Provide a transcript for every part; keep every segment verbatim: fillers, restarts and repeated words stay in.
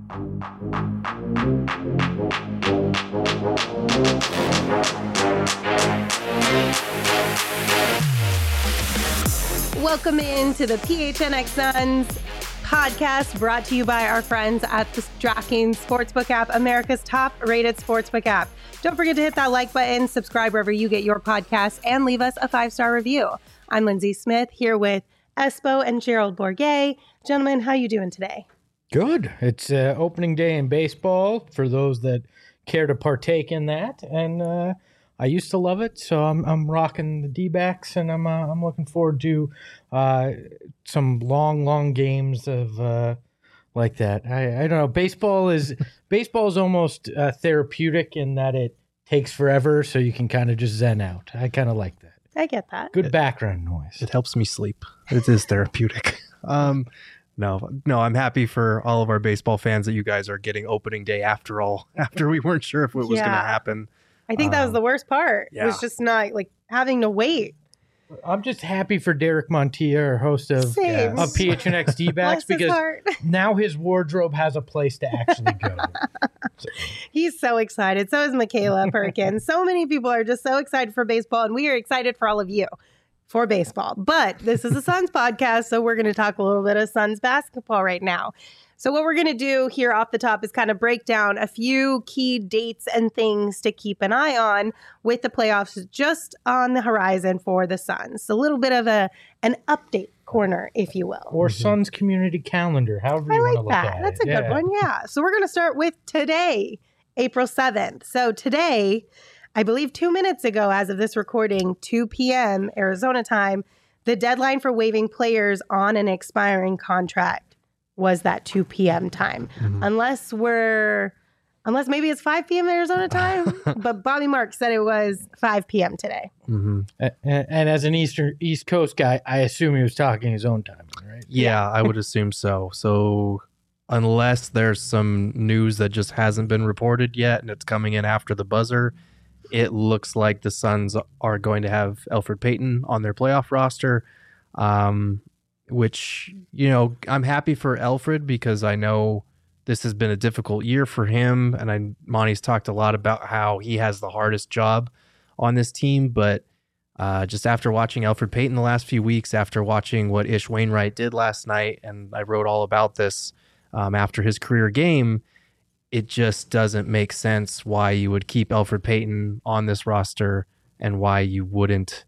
Welcome into the P H N X Suns podcast, brought to you by our friends at the DraftKings Sportsbook app, America's top-rated sportsbook app. Don't forget to hit that like button, subscribe wherever you get your podcasts, and leave us a five-star review. I'm Lindsay Smith, here with Espo and Gerald Bourguet. Gentlemen, how you doing today? Good. It's uh, opening day in baseball for those that care to partake in that, and uh, I used to love it, so I'm I'm rocking the D-backs, and I'm uh, I'm looking forward to uh, some long, long games of uh, like that. I, I don't know. Baseball is baseball is almost uh, therapeutic in that it takes forever, so you can kind of just zen out. I kind of like that. I get that. Good background noise. It helps me sleep. It is therapeutic. um, no, no, I'm happy for all of our baseball fans that you guys are getting opening day after all. After we weren't sure if it was Yeah. going to happen. I think that was Um, the worst part. yeah. It was just not like having to wait. I'm just happy for Derek Montilla, our host of, Same. of P H N X D-backs, Bless his because heart. now his wardrobe has a place to actually go. So, He's so excited. So is Michaela Perkins. So many people are just so excited for baseball, and we are excited for all of you for baseball. But this is a Suns podcast, so we're going to talk a little bit of Suns basketball right now. So what we're going to do here off the top is kind of break down a few key dates and things to keep an eye on with the playoffs just on the horizon for the Suns. A little bit of a an update corner, if you will. or Suns community calendar, however I you want to like look that. at That's it. a good Yeah. one. Yeah. So we're going to start with today, April seventh. So today, I believe two minutes ago, as of this recording, two p.m. Arizona time, the deadline for waiving players on an expiring contract was that two p.m. time. Mhm. Unless we're, unless maybe it's five p.m. Arizona time, but Bobby Marks said it was five p.m. today. Mhm. A- And, and as an Eastern East Coast guy, I assume he was talking his own time, right? Yeah, I would assume so. So unless there's some news that just hasn't been reported yet and it's coming in after the buzzer, it looks like the Suns are going to have Elfrid Payton on their playoff roster, um, which, you know, I'm happy for Elfrid because I know this has been a difficult year for him. And I, Monty's talked a lot about how he has the hardest job on this team, but Uh, just after watching Elfrid Payton the last few weeks, after watching what Ish Wainwright did last night, and I wrote all about this um, after his career game, it just doesn't make sense why you would keep Elfrid Payton on this roster and why you wouldn't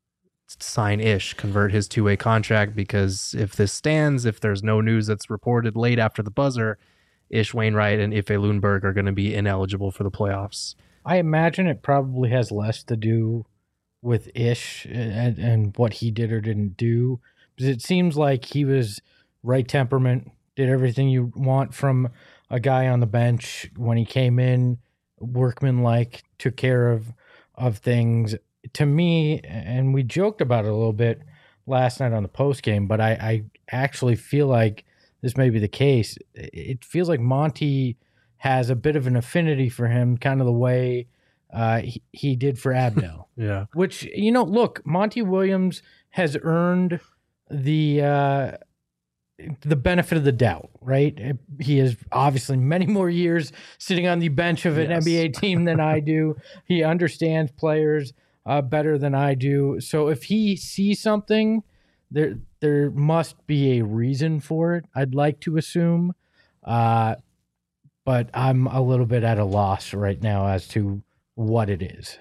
sign Ish, convert his two-way contract, because if this stands, if there's no news that's reported late after the buzzer, Ish Wainwright and Ife Lundberg are going to be ineligible for the playoffs. I imagine it probably has less to do with Ish and, and what he did or didn't do, because it seems like he was right temperament, did everything you want from a guy on the bench when he came in, workmanlike, took care of of things. To me, and we joked about it a little bit last night on the post game, but I, I actually feel like this may be the case. It feels like Monty has a bit of an affinity for him, kind of the way uh, he, he did for Abdel. Yeah. Which, you know, look, Monty Williams has earned the uh, the benefit of the doubt, right? He has obviously many more years sitting on the bench of an Yes. N B A team than I do. He understands players uh, better than I do. So if he sees something, there there must be a reason for it, I'd like to assume. Uh, but I'm a little bit at a loss right now as to what it is.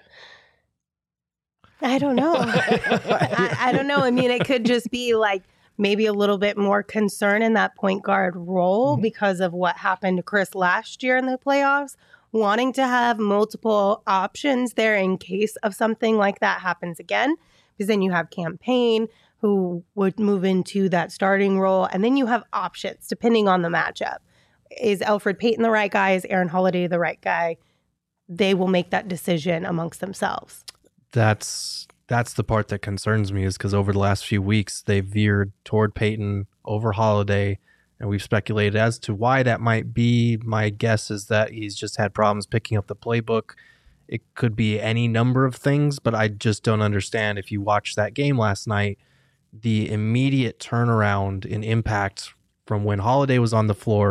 I don't know. I, I don't know. I mean, it could just be like maybe a little bit more concern in that point guard role Mm-hmm. because of what happened to Chris last year in the playoffs, wanting to have multiple options there in case of something like that happens again. Because then you have Campaign who would move into that starting role, and then you have options depending on the matchup. Is Elfrid Payton the right guy? Is Aaron Holiday the right guy? They will make that decision amongst themselves. That's that's the part that concerns me, is because over the last few weeks they've veered toward Payton over Holiday, and we've speculated as to why that might be. My guess is that he's just had problems picking up the playbook. It could be any number of things, but I just don't understand. If you watched that game last night, the immediate turnaround in impact from when Holiday was on the floor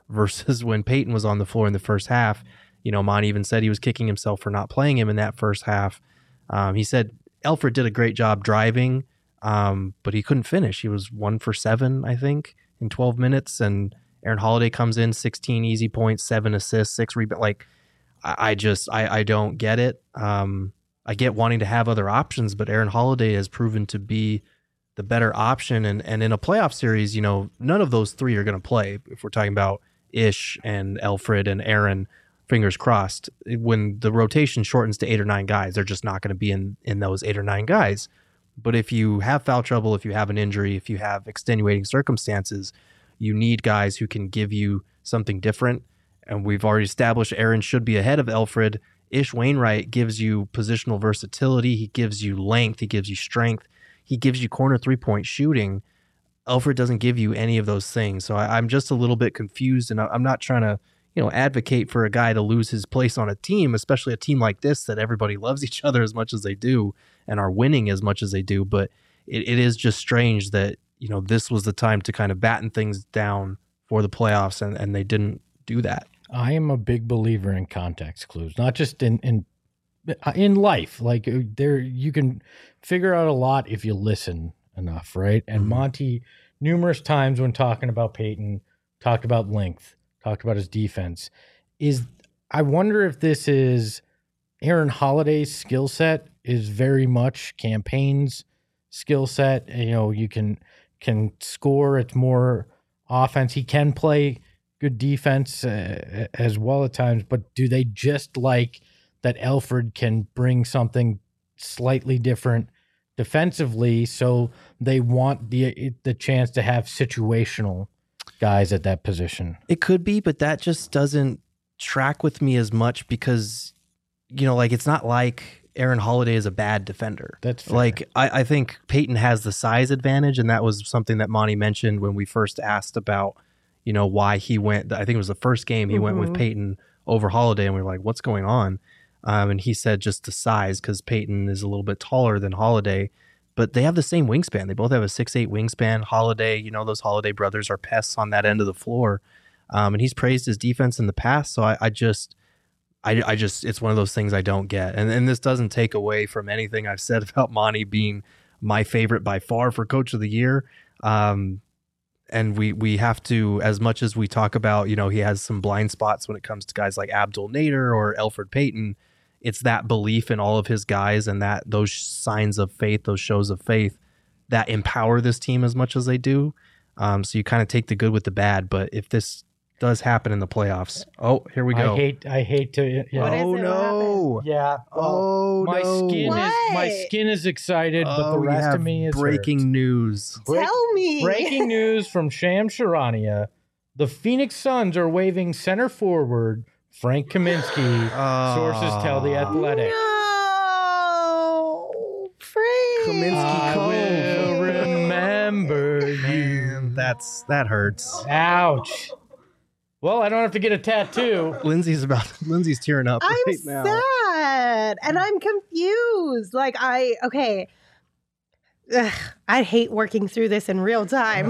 versus when Peyton was on the floor in the first half. You know, Monty even said he was kicking himself for not playing him in that first half. Um, he said Elfrid did a great job driving, um, but he couldn't finish. He was one for seven, I think, in twelve minutes. And Aaron Holiday comes in, sixteen easy points, seven assists, six rebounds. Like, I, I just, I, I don't get it. Um, I get wanting to have other options, but Aaron Holiday has proven to be the better option. And, and in a playoff series, you know, none of those three are going to play. If we're talking about Ish and Elfrid and Aaron, fingers crossed, when the rotation shortens to eight or nine guys, they're just not going to be in, in those eight or nine guys. But if you have foul trouble, if you have an injury, if you have extenuating circumstances, you need guys who can give you something different. And we've already established Aaron should be ahead of Elfrid. Ish Wainwright gives you positional versatility. He gives you length. He gives you strength. He gives you corner three-point shooting. Elfrid doesn't give you any of those things. So I, I'm just a little bit confused, and I, I'm not trying to, you know, advocate for a guy to lose his place on a team, especially a team like this that everybody loves each other as much as they do and are winning as much as they do. But it, it is just strange that, you know, this was the time to kind of batten things down for the playoffs, and, and they didn't do that. I am a big believer in context clues, not just in in in life. Like there, you can figure out a lot if you listen enough, right? And mm-hmm. Monty, numerous times when talking about Peyton, talked about length, talked about his defense. Is I wonder if this is Aaron Holiday's skill set is very much Campaign's skill set. You know, you can can score. It's more offense. He can play good defense uh, as well at times, but do they just like that Elfrid can bring something slightly different defensively, so they want the the chance to have situational guys at that position? It could be, but that just doesn't track with me as much because, you know, like it's not like Aaron Holiday is a bad defender. That's fair. Like I, I think Peyton has the size advantage, and that was something that Monty mentioned when we first asked about, you know, why he went. I think it was the first game he mm-hmm. went with Peyton over Holiday, and we were like, what's going on? Um, and he said just the size, because Peyton is a little bit taller than Holiday, but they have the same wingspan. They both have a six eight wingspan. Holiday, you know, those Holiday brothers are pests on that end of the floor. Um, and he's praised his defense in the past. So I, I just, I, I just, it's one of those things I don't get. And, and this doesn't take away from anything I've said about Monty being my favorite by far for Coach of the Year. Um, and we, we have to, as much as we talk about, you know, he has some blind spots when it comes to guys like Abdul Nader or Elfrid Payton. It's that belief in all of his guys and that those signs of faith, those shows of faith that empower this team as much as they do. Um, so you kind of take the good with the bad. But if this does happen in the playoffs, oh, here we go. I hate, I hate to. Yeah. Oh no! Yeah. Well, oh my no! Skin what? is my skin is excited, oh, but the rest of me is breaking hurt. news. Break, Tell me. Breaking news from Shams Charania: the Phoenix Suns are waving center forward Frank Kaminsky. Oh. Sources tell The Athletic. No, Frank. Kaminsky I Cove. will remember you. Man, that's that hurts. Ouch. Well, I don't have to get a tattoo. Lindsay's about. Lindsay's tearing up I'm right now. sad and I'm confused. Like I okay. Ugh, I hate working through this in real time.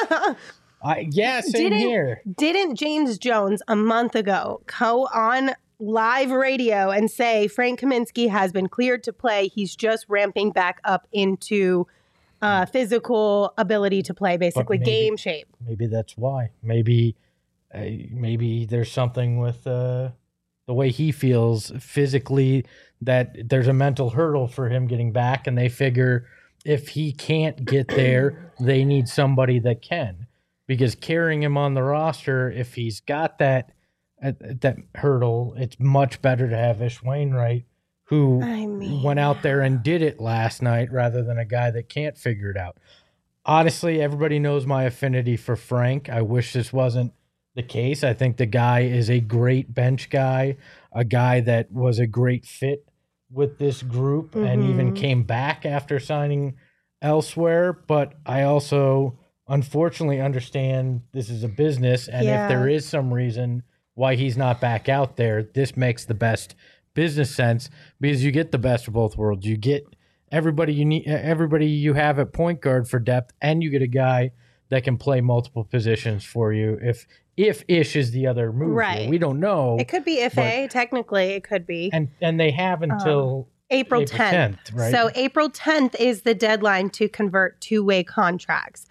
I, yeah, same didn't, here. Didn't James Jones a month ago go on live radio and say Frank Kaminsky has been cleared to play? He's just ramping back up into uh, physical ability to play, basically maybe, game shape. Maybe that's why. Maybe, uh, maybe there's something with uh, the way he feels physically that there's a mental hurdle for him getting back, and they figure if he can't get there, they need somebody that can. Because carrying him on the roster, if he's got that uh, that hurdle, it's much better to have Ish Wainwright, who I mean, went out there and did it last night, rather than a guy that can't figure it out. Honestly, everybody knows my affinity for Frank. I wish this wasn't the case. I think the guy is a great bench guy, a guy that was a great fit with this group mm-hmm. and even came back after signing elsewhere. But I also unfortunately understand this is a business, and yeah. if there is some reason why he's not back out there, this makes the best business sense, because you get the best of both worlds. You get everybody you need, everybody you have at point guard for depth, and you get a guy that can play multiple positions for you if if Ish is the other move. Right. Here. We don't know. It could be if a, technically it could be. And and they have until Um, April tenth. right? So April tenth is the deadline to convert two-way contracts.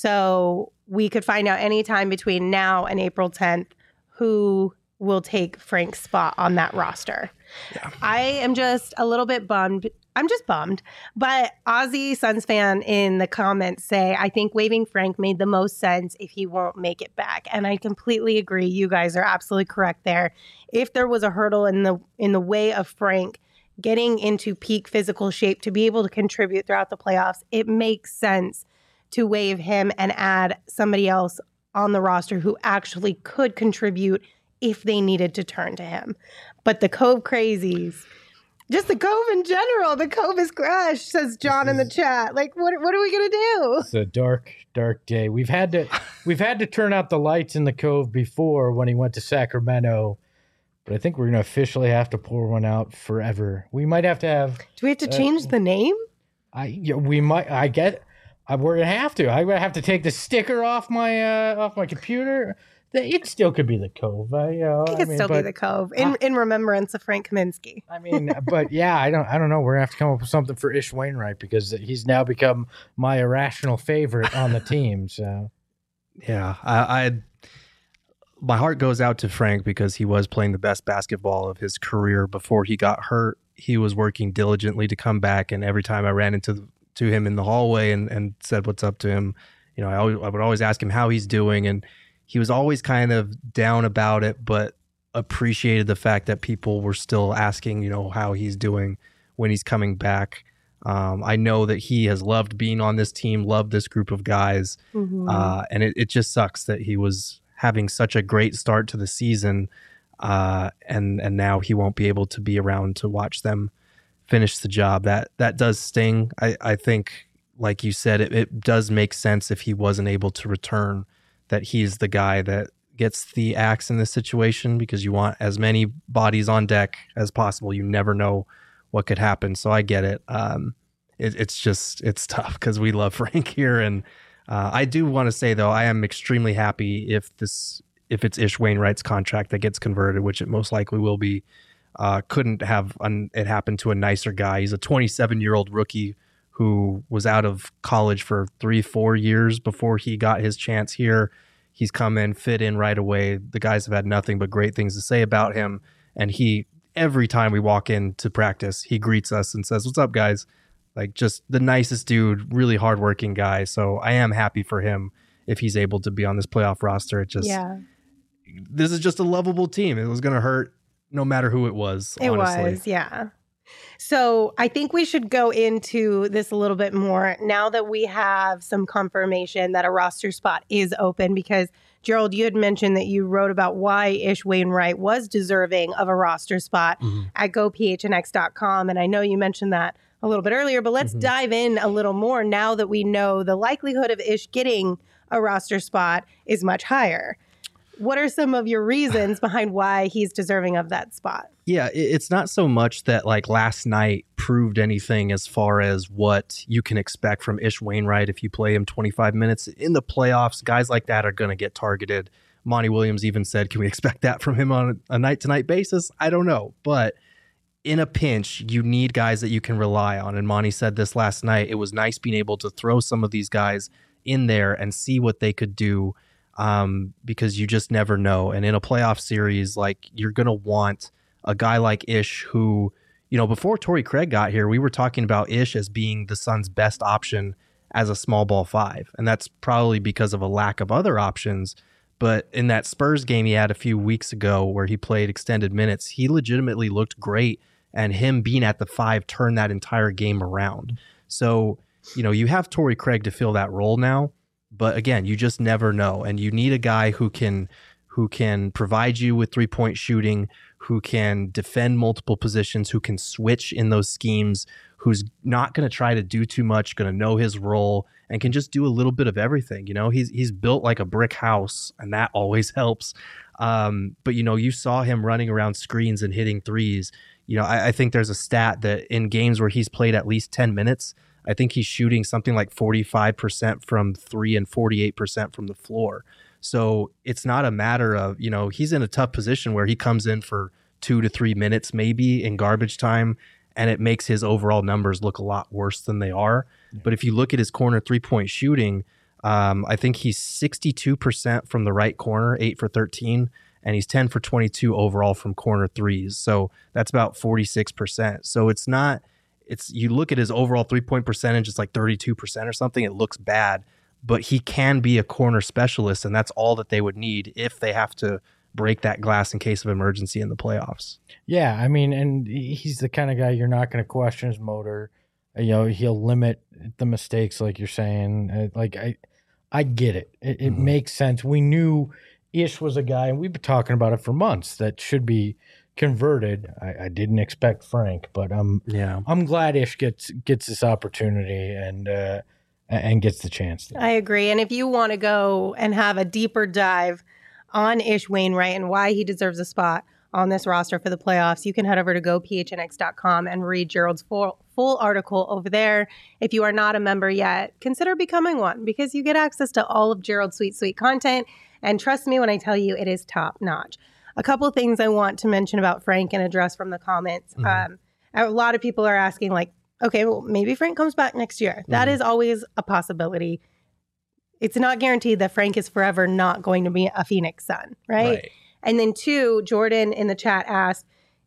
So we could find out anytime between now and April tenth who will take Frank's spot on that roster. Yeah. I am just a little bit bummed. I'm just bummed. But Aussie Suns fan in the comments say, I think waiving Frank made the most sense if he won't make it back. And I completely agree. You guys are absolutely correct there. If there was a hurdle in the in the way of Frank getting into peak physical shape to be able to contribute throughout the playoffs, it makes sense to waive him and add somebody else on the roster who actually could contribute if they needed to turn to him. But the Cove crazies, just the Cove in general, the Cove is crushed, says John in the chat. Like, what what are we gonna do? It's a dark, dark day. We've had to we've had to turn out the lights in the Cove before when he went to Sacramento, but I think we're gonna officially have to pour one out forever. We might have to have. Do we have to change uh, the name? I yeah, we might. I get. I, we're gonna have to. I'm gonna have to take the sticker off my uh, off my computer. It still could be the Cove. I, you know, it could I mean, still but, be the Cove in, uh, in remembrance of Frank Kaminsky. I mean, but yeah, I don't, I don't know. We're gonna have to come up with something for Ish Wainwright because he's now become my irrational favorite on the team. So, yeah, I, I, my heart goes out to Frank because he was playing the best basketball of his career before he got hurt. He was working diligently to come back, and every time I ran into the, to him in the hallway and, and said what's up to him, you know, I, always, I would always ask him how he's doing, and he was always kind of down about it, but appreciated the fact that people were still asking, you know, how he's doing when he's coming back. Um, I know that he has loved being on this team, loved this group of guys, mm-hmm. uh, and it, it just sucks that he was having such a great start to the season, uh, and and now he won't be able to be around to watch them finish the job. That that does sting. I, I think, like you said, it, it does make sense if he wasn't able to return, that he's the guy that gets the axe in this situation because you want as many bodies on deck as possible. You never know what could happen. So I get it. Um, it it's just, it's tough because we love Frank here. And uh, I do want to say, though, I am extremely happy if this, if it's Ish Wainwright's contract that gets converted, which it most likely will be. Uh, couldn't have un- it happen to a nicer guy. He's a twenty-seven-year-old rookie who was out of college for three, four years before he got his chance here. He's come in, fit in right away. The guys have had nothing but great things to say about him. And he, every time we walk into practice, he greets us and says, "What's up, guys?" Like, just the nicest dude, really hardworking guy. So I am happy for him if he's able to be on this playoff roster. It just, yeah. This is just a lovable team. It was going to hurt no matter who it was, It honestly. was, yeah. So I think we should go into this a little bit more now that we have some confirmation that a roster spot is open, because Gerald, you had mentioned that you wrote about why Ish Wainwright was deserving of a roster spot mm-hmm. at go p h n x dot com. And I know you mentioned that a little bit earlier, but let's mm-hmm. dive in a little more now that we know the likelihood of Ish getting a roster spot is much higher. What are some of your reasons behind why he's deserving of that spot? Yeah, it's not so much that like last night proved anything as far as what you can expect from Ish Wainwright if you play him twenty-five minutes. In the playoffs, guys like that are going to get targeted. Monty Williams even said, can we expect that from him on a night-to-night basis? I don't know. But in a pinch, you need guys that you can rely on. And Monty said this last night. It was nice being able to throw some of these guys in there and see what they could do. Um, because you just never know. And in a playoff series, like, you're going to want a guy like Ish who, you know, before Torrey Craig got here, we were talking about Ish as being the Suns' best option as a small ball five. And that's probably because of a lack of other options. But in that Spurs game he had a few weeks ago where he played extended minutes, he legitimately looked great. And him being at the five turned that entire game around. So, you know, you have Torrey Craig to fill that role now. But again, you just never know. And you need a guy who can who can provide you with three-point shooting, who can defend multiple positions, who can switch in those schemes, who's not going to try to do too much, going to know his role, and can just do a little bit of everything. You know, he's he's built like a brick house, and that always helps. Um, but, you know, you saw him running around screens and hitting threes. You know, I, I think there's a stat that in games where he's played at least ten minutes, I think he's shooting something like forty-five percent from three and forty-eight percent from the floor. So it's not a matter of, you know, he's in a tough position where he comes in for two to three minutes maybe in garbage time, and it makes his overall numbers look a lot worse than they are. Yeah. But if you look at his corner three-point shooting, um, I think he's sixty-two percent from the right corner, eight for thirteen, and he's ten for twenty-two overall from corner threes. So that's about forty-six percent. So it's not, it's, you look at his overall three-point percentage, it's like thirty-two percent or something. It looks bad, but he can be a corner specialist, and that's all that they would need if they have to break that glass in case of emergency in the playoffs. Yeah, I mean, and he's the kind of guy you're not going to question his motor. You know, he'll limit the mistakes, like you're saying. Like, I I get it. It, it mm-hmm. makes sense. We knew Ish was a guy, and we've been talking about it for months, that should be converted. I, I didn't expect Frank, but I'm yeah. I'm glad Ish gets gets this opportunity and uh, and gets the chance to. I agree. And if you want to go and have a deeper dive on Ish Wainwright and why he deserves a spot on this roster for the playoffs, you can head over to go p h n x dot com and read Gerald's full, full article over there. If you are not a member yet, consider becoming one, because you get access to all of Gerald's sweet, sweet content. And trust me when I tell you, it is top notch. A couple of things I want to mention about Frank and address from the comments. Mm-hmm. Um, a lot of people are asking, like, okay, well, maybe Frank comes back next year. Mm-hmm. That is always a possibility. It's not guaranteed that Frank is forever not going to be a Phoenix Sun, right? right. And then two, Jordan in the chat asked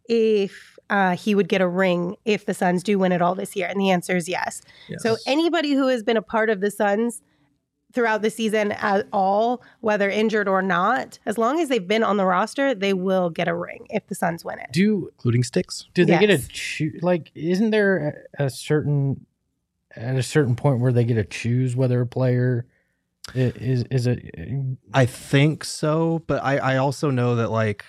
if uh, he would get a ring if the Suns do win it all this year. And the answer is yes. yes. So anybody who has been a part of the Suns throughout the season at all, whether injured or not, as long as they've been on the roster, they will get a ring if the Suns win it. Do including sticks? Do they yes. get a choose? Like, isn't there a, a certain at a certain point where they get to choose whether a player is is it? I think so, but I I also know that, like,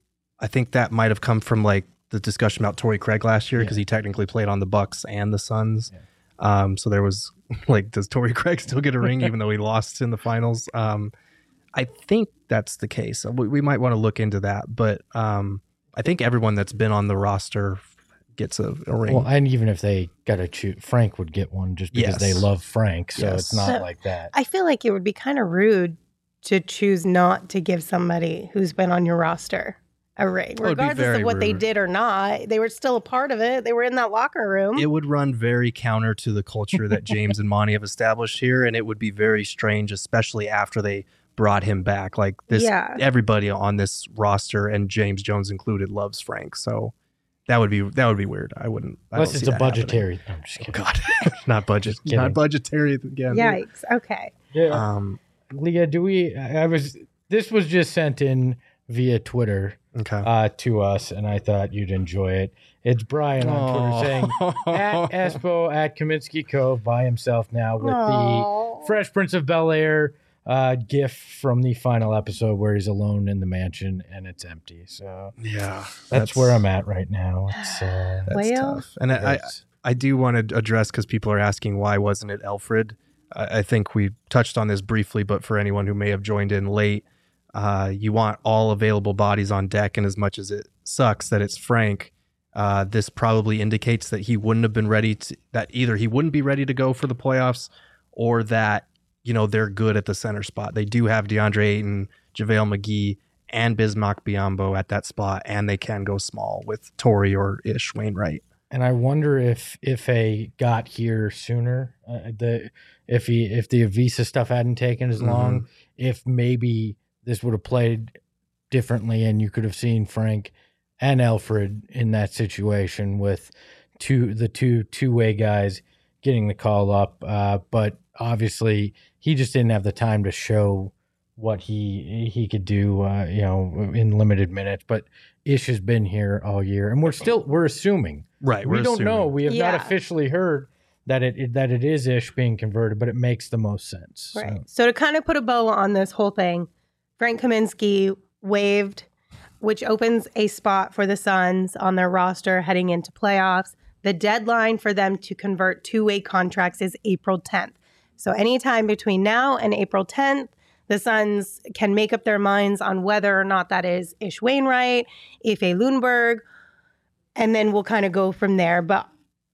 I think that might have come from like the discussion about Torrey Craig last year, because yeah. he technically played on the Bucks and the Suns. Yeah. Um, so there was like, does Torrey Craig still get a ring even though he lost in the finals? Um, I think that's the case. We, we might want to look into that, but um, I think everyone that's been on the roster gets a, a ring. Well, and even if they got to choose, Frank would get one just because yes. they love Frank. So yes. it's not so, like that. I feel like it would be kind of rude to choose not to give somebody who's been on your roster a ring, regardless of what rude. they did or not. They were still a part of it. They were in that locker room. It would run very counter to the culture that James and Monty have established here, and it would be very strange, especially after they brought him back. Like this, yeah. everybody on this roster, and James Jones included, loves Frank. So that would be that would be weird. I wouldn't. I Unless it's a budgetary. No, I'm just kidding. Oh, God, not budget. Not budgetary again. Yikes. Okay. Yeah. Um, Leah, do we? I was. This was just sent in via Twitter. Okay. Uh, to us, and I thought you'd enjoy it. It's Brian on Aww. Twitter saying, at Espo at Kaminsky Cove by himself now with Aww. the Fresh Prince of Bel-Air uh, gif from the final episode where he's alone in the mansion and it's empty. So yeah, that's, that's where I'm at right now. It's uh, that's well, tough. And I, I, I do want to address, because people are asking why wasn't it Elfrid? I, I think we touched on this briefly, but for anyone who may have joined in late, Uh, you want all available bodies on deck, and as much as it sucks that it's Frank, uh, this probably indicates that he wouldn't have been ready to, that either he wouldn't be ready to go for the playoffs, or that, you know, they're good at the center spot. They do have DeAndre Ayton, JaVale McGee, and Bismack Biyombo at that spot, and they can go small with Torrey or Ish Wainwright. And I wonder if if a got here sooner, uh, the if he if the Avisa stuff hadn't taken as long, mm-hmm. if maybe this would have played differently, and you could have seen Frank and Elfrid in that situation with two the two two-way guys getting the call up. Uh, but obviously, he just didn't have the time to show what he he could do, uh, you know, in limited minutes. But Ish has been here all year, and we're still we're assuming, right? We we're don't assuming. know. We have yeah. not officially heard that it, it that it is Ish being converted, but it makes the most sense. Right. So, so to kind of put a bow on this whole thing, Frank Kaminsky waived, which opens a spot for the Suns on their roster heading into playoffs. The deadline for them to convert two-way contracts is April tenth. So anytime between now and April tenth, the Suns can make up their minds on whether or not that is Ish Wainwright, Efe Lundberg, and then we'll kind of go from there. But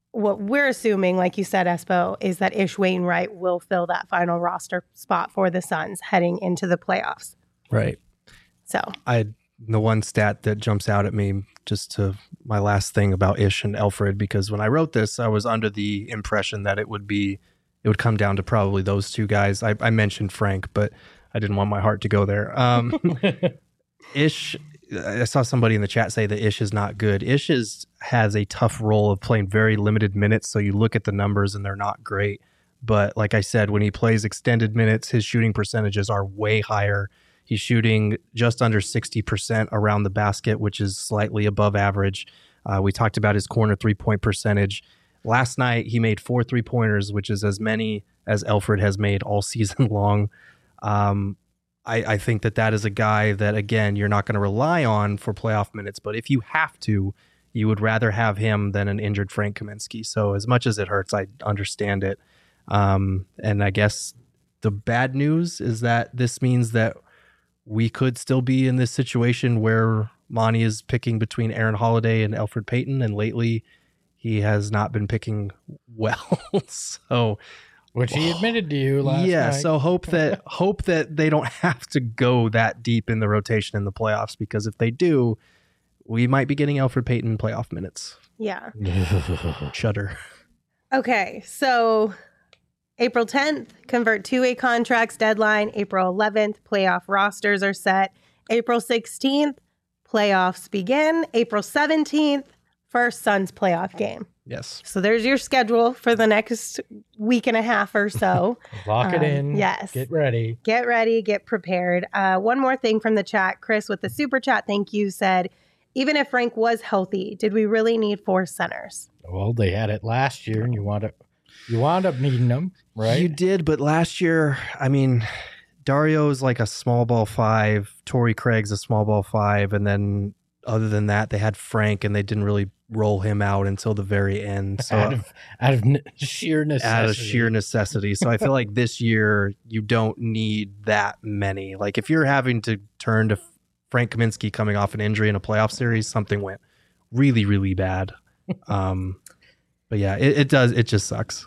what we're assuming, like you said, Espo, is that Ish Wainwright will fill that final roster spot for the Suns heading into the playoffs. Right. So I the one stat that jumps out at me, just to my last thing about Ish and Elfrid, because when I wrote this, I was under the impression that it would be it would come down to probably those two guys. I, I mentioned Frank, but I didn't want my heart to go there. Um, Ish, I saw somebody in the chat say that Ish is not good. Ish is, has a tough role of playing very limited minutes, so you look at the numbers and they're not great. But like I said, when he plays extended minutes, his shooting percentages are way higher. He's shooting just under sixty percent around the basket, which is slightly above average. Uh, we talked about his corner three-point percentage. Last night, he made four three-pointers, which is as many as Elfrid has made all season long. Um, I, I think that that is a guy that, again, you're not going to rely on for playoff minutes. But if you have to, you would rather have him than an injured Frank Kaminsky. So as much as it hurts, I understand it. Um, and I guess the bad news is that this means that we could still be in this situation where Monty is picking between Aaron Holiday and Elfrid Payton. And lately, he has not been picking well. so... Which he admitted to you last yeah, night. so hope that hope that they don't have to go that deep in the rotation in the playoffs, because if they do, we might be getting Elfrid Payton playoff minutes. yeah. Shudder. Okay, so April tenth, convert two-way contracts deadline. April eleventh, playoff rosters are set. April sixteenth, playoffs begin. April seventeenth, first Suns playoff game. Yes. So there's your schedule for the next week and a half or so. Lock it Um, in. yes. Get ready. Get ready, get prepared. Uh, one more thing from the chat. Chris with the super chat, thank you, said, even if Frank was healthy, did we really need four centers? Well, they had it last year, and you wound up you wound up needing them, right? You did, but last year, I mean, Dario's like a small ball five, Torrey Craig's a small ball five, and then other than that, they had Frank, and they didn't really roll him out until the very end. So out of out of n- sheer necessity. out of sheer necessity. So I feel like this year you don't need that many. Like if you're having to turn to Frank Kaminsky coming off an injury in a playoff series, something went really, really bad. Um, but yeah, it, it does. It just sucks.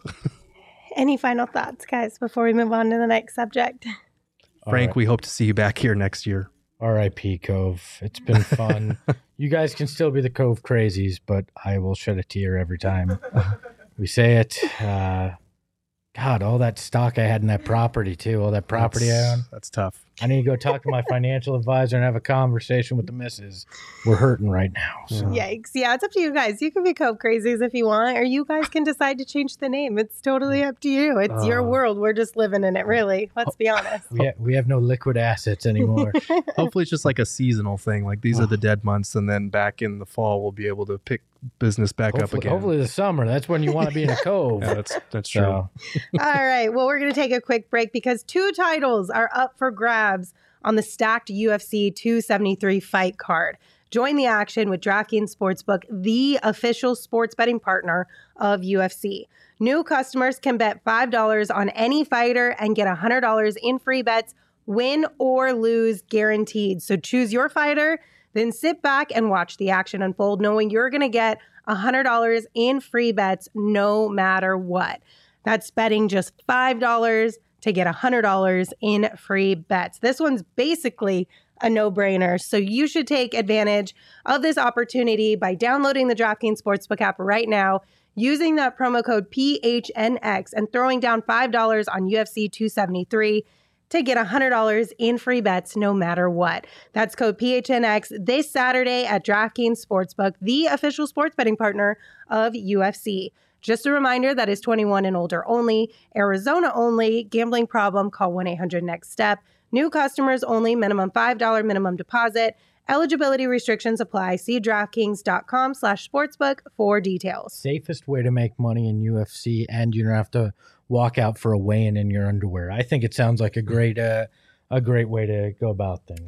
Any final thoughts, guys, before we move on to the next subject? Frank, right. we hope to see you back here next year. R I P Cove. It's been fun. You guys can still be the Cove crazies, but I will shed a tear every time we say it. Uh, God, all that stock I had in that property too, all that property that's, I own. That's tough. I need to go talk to my financial advisor and have a conversation with the missus. We're hurting right now. So. Yikes. Yeah, it's up to you guys. You can be Cove Crazies if you want, or you guys can decide to change the name. It's totally up to you. It's Uh, your world. We're just living in it, really. Let's be honest. We, ha- we have no liquid assets anymore. Hopefully it's just like a seasonal thing. Like these are the dead months, and then back in the fall we'll be able to pick business back hopefully, up again. hopefully the summer. That's when you want to be in a cove. Yeah, that's that's true. So, All right. Well, we're going to take a quick break because two titles are up for grabs on the stacked U F C two seventy-three fight card. Join the action with DraftKings Sportsbook, the official sports betting partner of U F C. New customers can bet five dollars on any fighter and get one hundred dollars in free bets, win or lose guaranteed. So choose your fighter, then sit back and watch the action unfold, knowing you're going to get one hundred dollars in free bets no matter what. That's betting just five dollars to get one hundred dollars in free bets. This one's basically a no-brainer, so you should take advantage of this opportunity by downloading the DraftKings Sportsbook app right now, using that promo code P H N X and throwing down five dollars on U F C two seventy-three to get one hundred dollars in free bets no matter what. That's code P H N X this Saturday at DraftKings Sportsbook, the official sports betting partner of U F C. Just a reminder that is twenty-one and older only, Arizona only, gambling problem, call one eight hundred next step. New customers only, minimum five dollars minimum deposit. Eligibility restrictions apply. See DraftKings.com slash sportsbook for details. safest way to make money in U F C, and you don't have to walk out for a weigh-in in your underwear. I think it sounds like a great, uh, a great way to go about things.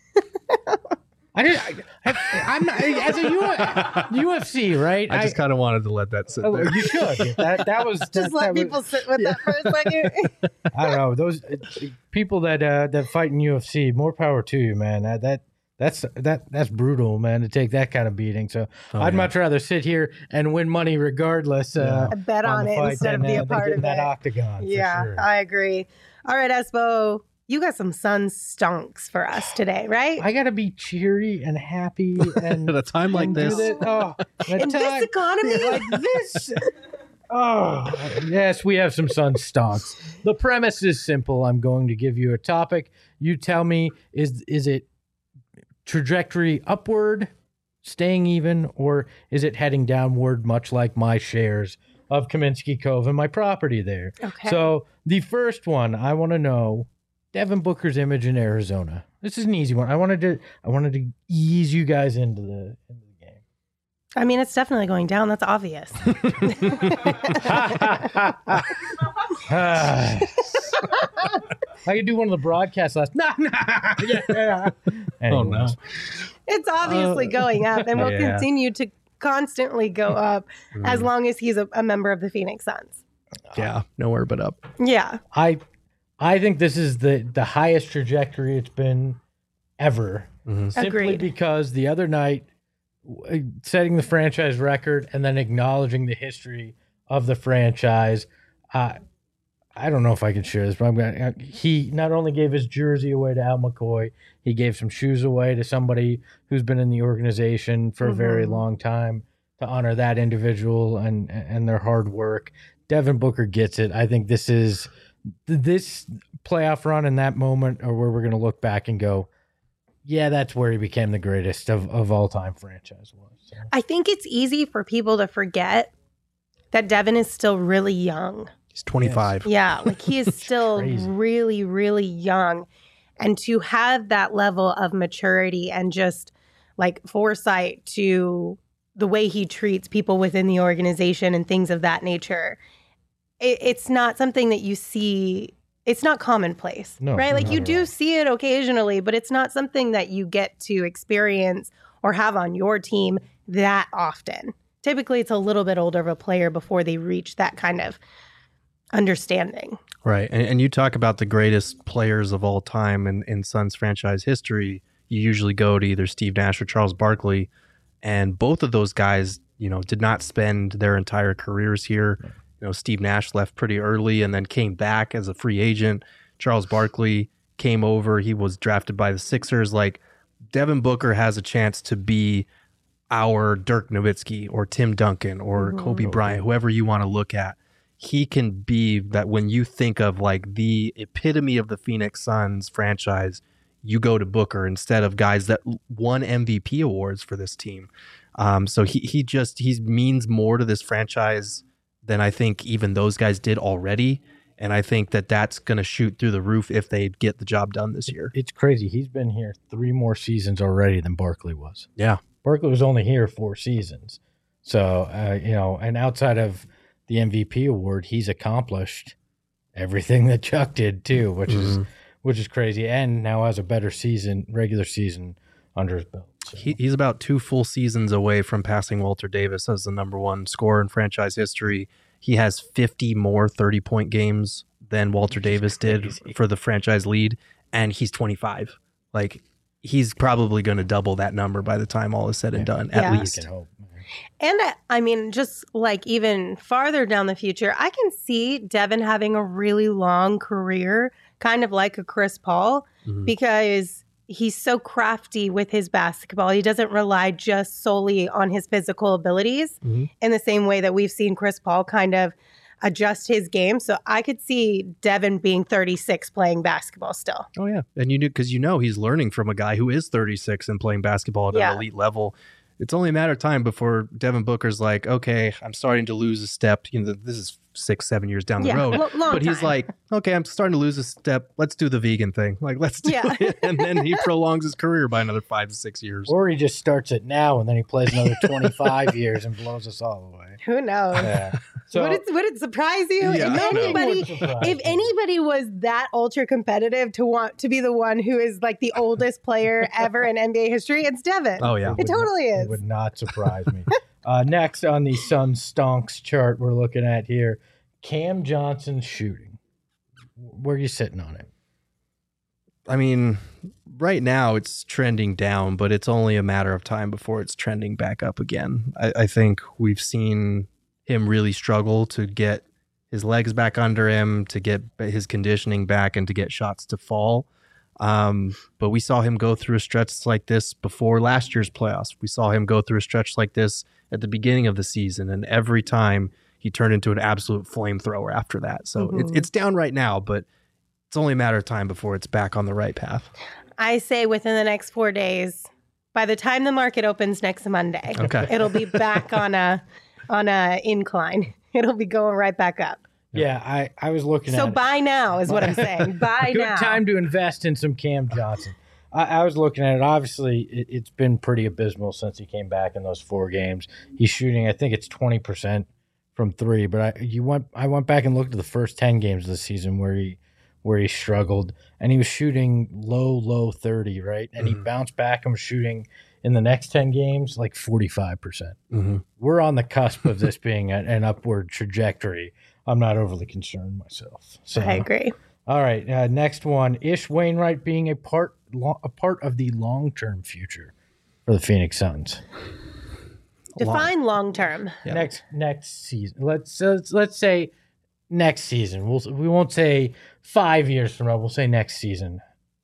I did. I, I, I'm not, as a U, U F C, right? I just kind of wanted to let that sit Oh, there. you should. That that was Just that, let that people was, sit with that for a second. I don't know those uh, people that uh, that fight in U F C. More power to you, man. That that That's that that's brutal, man, to take that kind of beating. So Oh, I'd yeah. much rather sit here and win money regardless. Uh, I bet on on the it fight instead of than, be uh, a than part getting of that it. octagon. Yeah, for sure. I agree. All right, Espo, you got some sun stonks for us today, right? I gotta be cheery and happy and At a time like and do this, that- Oh, at In this time- economy? like this. Oh, yes, we have some sun stonks. The premise is simple. I'm going to give you a topic. You tell me, is is it trajectory upward, staying even, or is it heading downward, much like my shares of Kaminsky Cove and my property there? Okay. So the first one, I want to know Devin Booker's image in Arizona. This is an easy one. I wanted to I wanted to ease you guys into the into the game. I mean, it's definitely going down. That's obvious. Ah. I could do one of the broadcasts last. Nah, nah, yeah. oh no, Anyways. It's obviously Uh, continue up and will yeah. continue to constantly go up as Mm. long as he's a, a member of the Phoenix Suns. yeah, nowhere but up. Yeah. I I think this is the the highest trajectory it's been ever. Mhm. Simply Agreed. because the other night, w- setting the franchise record and then acknowledging the history of the franchise. Uh, I don't know if I can share this, but I'm gonna. He not only gave his jersey away to Al McCoy, he gave some shoes away to somebody who's been in the organization for a very Mhm. long time to honor that individual and and their hard work. Devin Booker gets it. I think this is this playoff run and that moment are where we're going to look back and go, yeah, that's where he became the greatest of, of all time franchise was. So. I think it's easy for people to forget that Devin is still really young. He's twenty-five. Yeah, like he is still crazy. really, really young. And to have that level of maturity and just like foresight to the way he treats people within the organization and things of that nature, it, it's not something that you see. It's not commonplace, No, right? Like not you at do all. see it occasionally, but it's not something that you get to experience or have on your team that often. Typically, it's a little bit older of a player before they reach that kind of understanding. Right. And, and you talk about the greatest players of all time in, in Suns franchise history. You usually go to either Steve Nash or Charles Barkley. And both of those guys, you know, did not spend their entire careers here. You know, Steve Nash left pretty early and then came back as a free agent. Charles Barkley came over. He was drafted by the Sixers. Like, Devin Booker has a chance to be our Dirk Nowitzki or Tim Duncan or Mhm. Kobe Bryant, whoever you want to look at. He can be that when you think of like the epitome of the Phoenix Suns franchise, you go to Booker instead of guys that won M V P awards for this team. Um, so he he just he means more to this franchise than I think even those guys did already. And I think that that's going to shoot through the roof if they get the job done this year. It's crazy. He's been here three more seasons already than Barkley was. Yeah. Barkley was only here four seasons. So, uh, you know, and outside of the M V P award, he's accomplished everything that Chuck did too, which is Mhm. which is crazy. And now has a better season, regular season under his belt. So. He, he's about two full seasons away from passing Walter Davis as the number one scorer in franchise history. He has fifty more thirty-point games than Walter Davis did crazy. for the franchise lead, and he's twenty-five. Like, he's probably going to double that number by the time all is said and Yeah. done, Yeah. at We least. can hope. And uh, I mean, just like even farther down the future, I can see Devin having a really long career, kind of like a Chris Paul, Mhm. because he's so crafty with his basketball. He doesn't rely just solely on his physical abilities Mhm. in the same way that we've seen Chris Paul kind of adjust his game. So I could see Devin being thirty-six playing basketball still. Oh, yeah. And you knew, because you know he's learning from a guy who is thirty-six and playing basketball at Yeah. an elite level. It's only a matter of time before Devin Booker's like, okay, I'm starting to lose a step. You know, this is six, seven years down the Yeah, road. lo- long But he's time. like, okay, I'm starting to lose a step. Let's do the vegan thing. Like, let's do Yeah. it. And then he prolongs his career by another five to six years. Or he just starts it now and then he plays another twenty-five years and blows us all away. Who knows? Yeah. So would, it, would it surprise you Yeah, if I know. anybody Would surprise if me. anybody was that ultra competitive to want to be the one who is like the oldest player ever in N B A history, it's Devin. Oh, yeah. It would totally not- is. It would not surprise me. uh, next on the Sun Stonks chart we're looking at here, Cam Johnson's shooting. Where are you sitting on it? I mean, right now it's trending down, but it's only a matter of time before it's trending back up again. I, I think we've seen him really struggle to get his legs back under him, to get his conditioning back, and to get shots to fall. Um, but we saw him go through a stretch like this before last year's playoffs. We saw him go through a stretch like this at the beginning of the season, and every time he turned into an absolute flamethrower after that. So mm-hmm. it's it's down right now, but it's only a matter of time before it's back on the right path. I say within the next four days, by the time the market opens next Monday, okay. it'll be back on a on a incline. It'll be going right back up. Yeah, I, I was looking so at it. So buy now is what I'm saying. Buy Good now. Good time to invest in some Cam Johnson. I, I was looking at it. Obviously, it, it's been pretty abysmal since he came back in those four games. He's shooting, I think it's twenty percent from three. But I you went I went back and looked at the first ten games of the season where he where he struggled, and he was shooting low, low thirty, right? And mm-hmm. he bounced back and was shooting in the next ten games like forty-five percent. Mm-hmm. We're on the cusp of this being a, an upward trajectory. I'm not overly concerned myself. So, I agree. All right, uh, next one: Ish Wainwright being a part lo- a part of the long term future for the Phoenix Suns. Define long term. Yeah. Next next season. Let's uh, let's say next season. We'll we won't say five years from now. We'll say next season.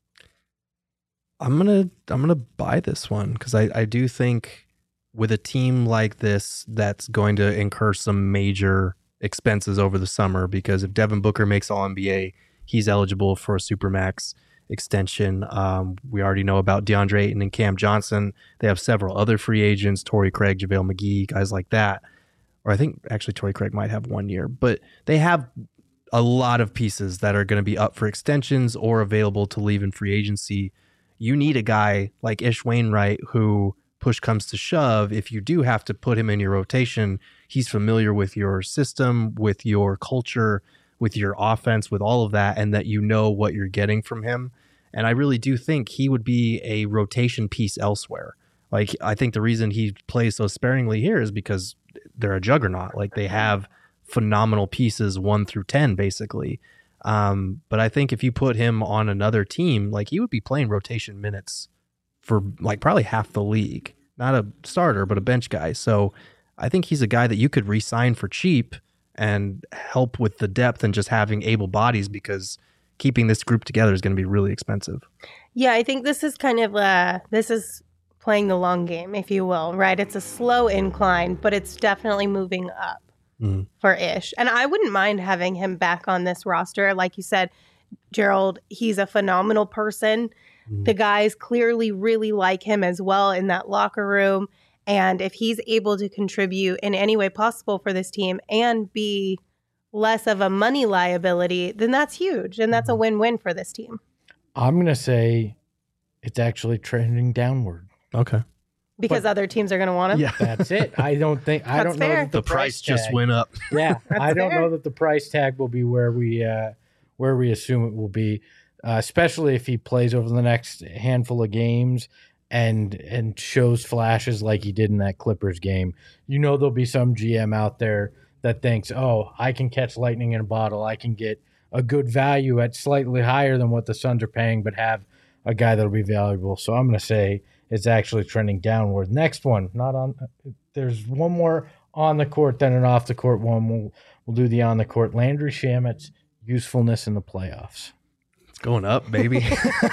I'm gonna I'm gonna buy this one because I I do think with a team like this that's going to incur some major expenses over the summer, because if Devin Booker makes All N B A, he's eligible for a Supermax extension. Um, we already know about DeAndre Ayton and Cam Johnson. They have several other free agents, Torrey Craig, JaVale McGee, guys like that. Or I think actually Torrey Craig might have one year, but they have a lot of pieces that are going to be up for extensions or available to leave in free agency. You need a guy like Ish Wainwright who, push comes to shove, if you do have to put him in your rotation, he's familiar with your system, with your culture, with your offense, with all of that, and that you know what you're getting from him. And I really do think he would be a rotation piece elsewhere. Like, I think the reason he plays so sparingly here is because they're a juggernaut. Like, they have phenomenal pieces one through ten, basically. Um, but I think if you put him on another team, like, he would be playing rotation minutes for like probably half the league. Not a starter, but a bench guy. So I think he's a guy that you could re-sign for cheap and help with the depth and just having able bodies, because keeping this group together is going to be really expensive. Yeah, I think this is kind of uh this is playing the long game, if you will, right? It's a slow incline, but it's definitely moving up mm. for Ish. And I wouldn't mind having him back on this roster. Like you said, Gerald, he's a phenomenal person. The guys clearly really like him as well in that locker room. And if he's able to contribute in any way possible for this team and be less of a money liability, then that's huge. And that's a win-win for this team. I'm going to say it's actually trending downward. Okay. Because but, other teams are going to want him? Yeah, that's it. I don't think, I don't fair. know that the, the price, price just went up. Yeah, I don't fair. know that the price tag will be where we, uh, where we assume it will be. Uh, especially if he plays over the next handful of games and and shows flashes like he did in that Clippers game. You know, there'll be some G M out there that thinks, oh, I can catch lightning in a bottle. I can get a good value at slightly higher than what the Suns are paying, but have a guy that'll be valuable. So I'm going to say it's actually trending downward. Next one, not on. There's one more on the court than an off the court one. We'll, we'll do the on the court. Landry Shamet's usefulness in the playoffs. Going up, baby.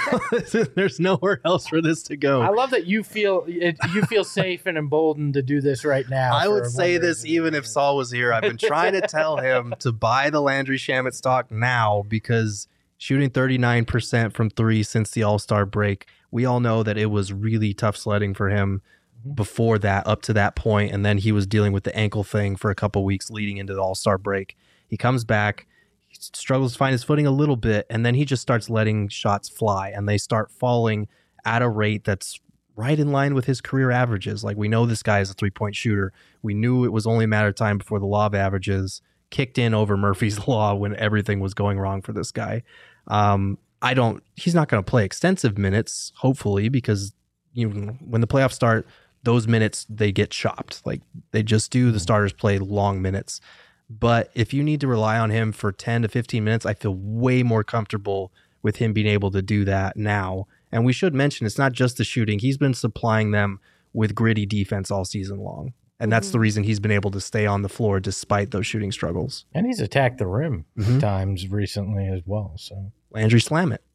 There's nowhere else for this to go. I love that you feel it, you feel safe and emboldened to do this right now. I would say this even if Saul was here. I've been trying to tell him to buy the Landry Shamet stock now, because shooting thirty-nine percent from three since the All-Star break, we all know that it was really tough sledding for him mm-hmm. before that, up to that point, and then he was dealing with the ankle thing for a couple weeks leading into the All-Star break. He comes back, struggles to find his footing a little bit, and then he just starts letting shots fly, and they start falling at a rate that's right in line with his career averages. Like, we know this guy is a three-point shooter. We knew it was only a matter of time before the law of averages kicked in over Murphy's Law when everything was going wrong for this guy. Um, I don't, he's not going to play extensive minutes, hopefully, because you know, when the playoffs start, those minutes, they get chopped. Like, they just do. The starters play long minutes. But if you need to rely on him for ten to fifteen minutes, I feel way more comfortable with him being able to do that now And we should mention it's not just the shooting. He's been supplying them with gritty defense all season long. And that's mm-hmm. the reason he's been able to stay on the floor despite those shooting struggles. And he's attacked the rim mm-hmm. times recently as well. So Landry, slam it.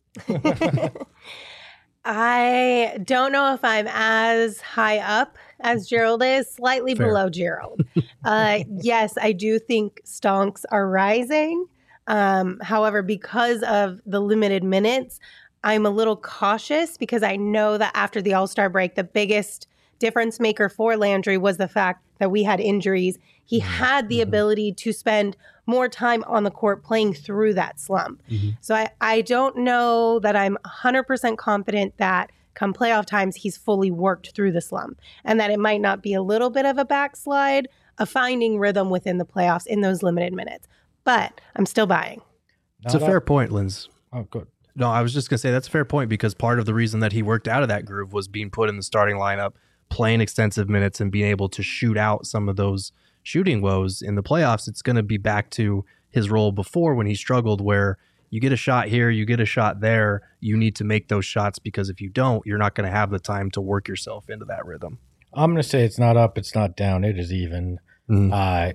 I don't know if I'm as high up as Gerald is, slightly Fair. below Gerald. Uh, yes, I do think stonks are rising. Um, however, because of the limited minutes, I'm a little cautious because I know that after the All-Star break, the biggest difference maker for Landry was the fact that we had injuries. He had the mm-hmm. ability to spend more time on the court playing through that slump. Mm-hmm. So I, I don't know that I'm one hundred percent confident that come playoff times, he's fully worked through the slump and that it might not be a little bit of a backslide of finding rhythm within the playoffs in those limited minutes. But I'm still buying. It's not a fair up. point, Linz. Oh, good. No, I was just going to say that's a fair point because part of the reason that he worked out of that groove was being put in the starting lineup, playing extensive minutes and being able to shoot out some of those shooting woes in the playoffs. It's going to be back to his role before when he struggled where you get a shot here, you get a shot there. You need to make those shots because if you don't, you're not going to have the time to work yourself into that rhythm. I'm going to say it's not up, it's not down. It is even. Mm. Uh,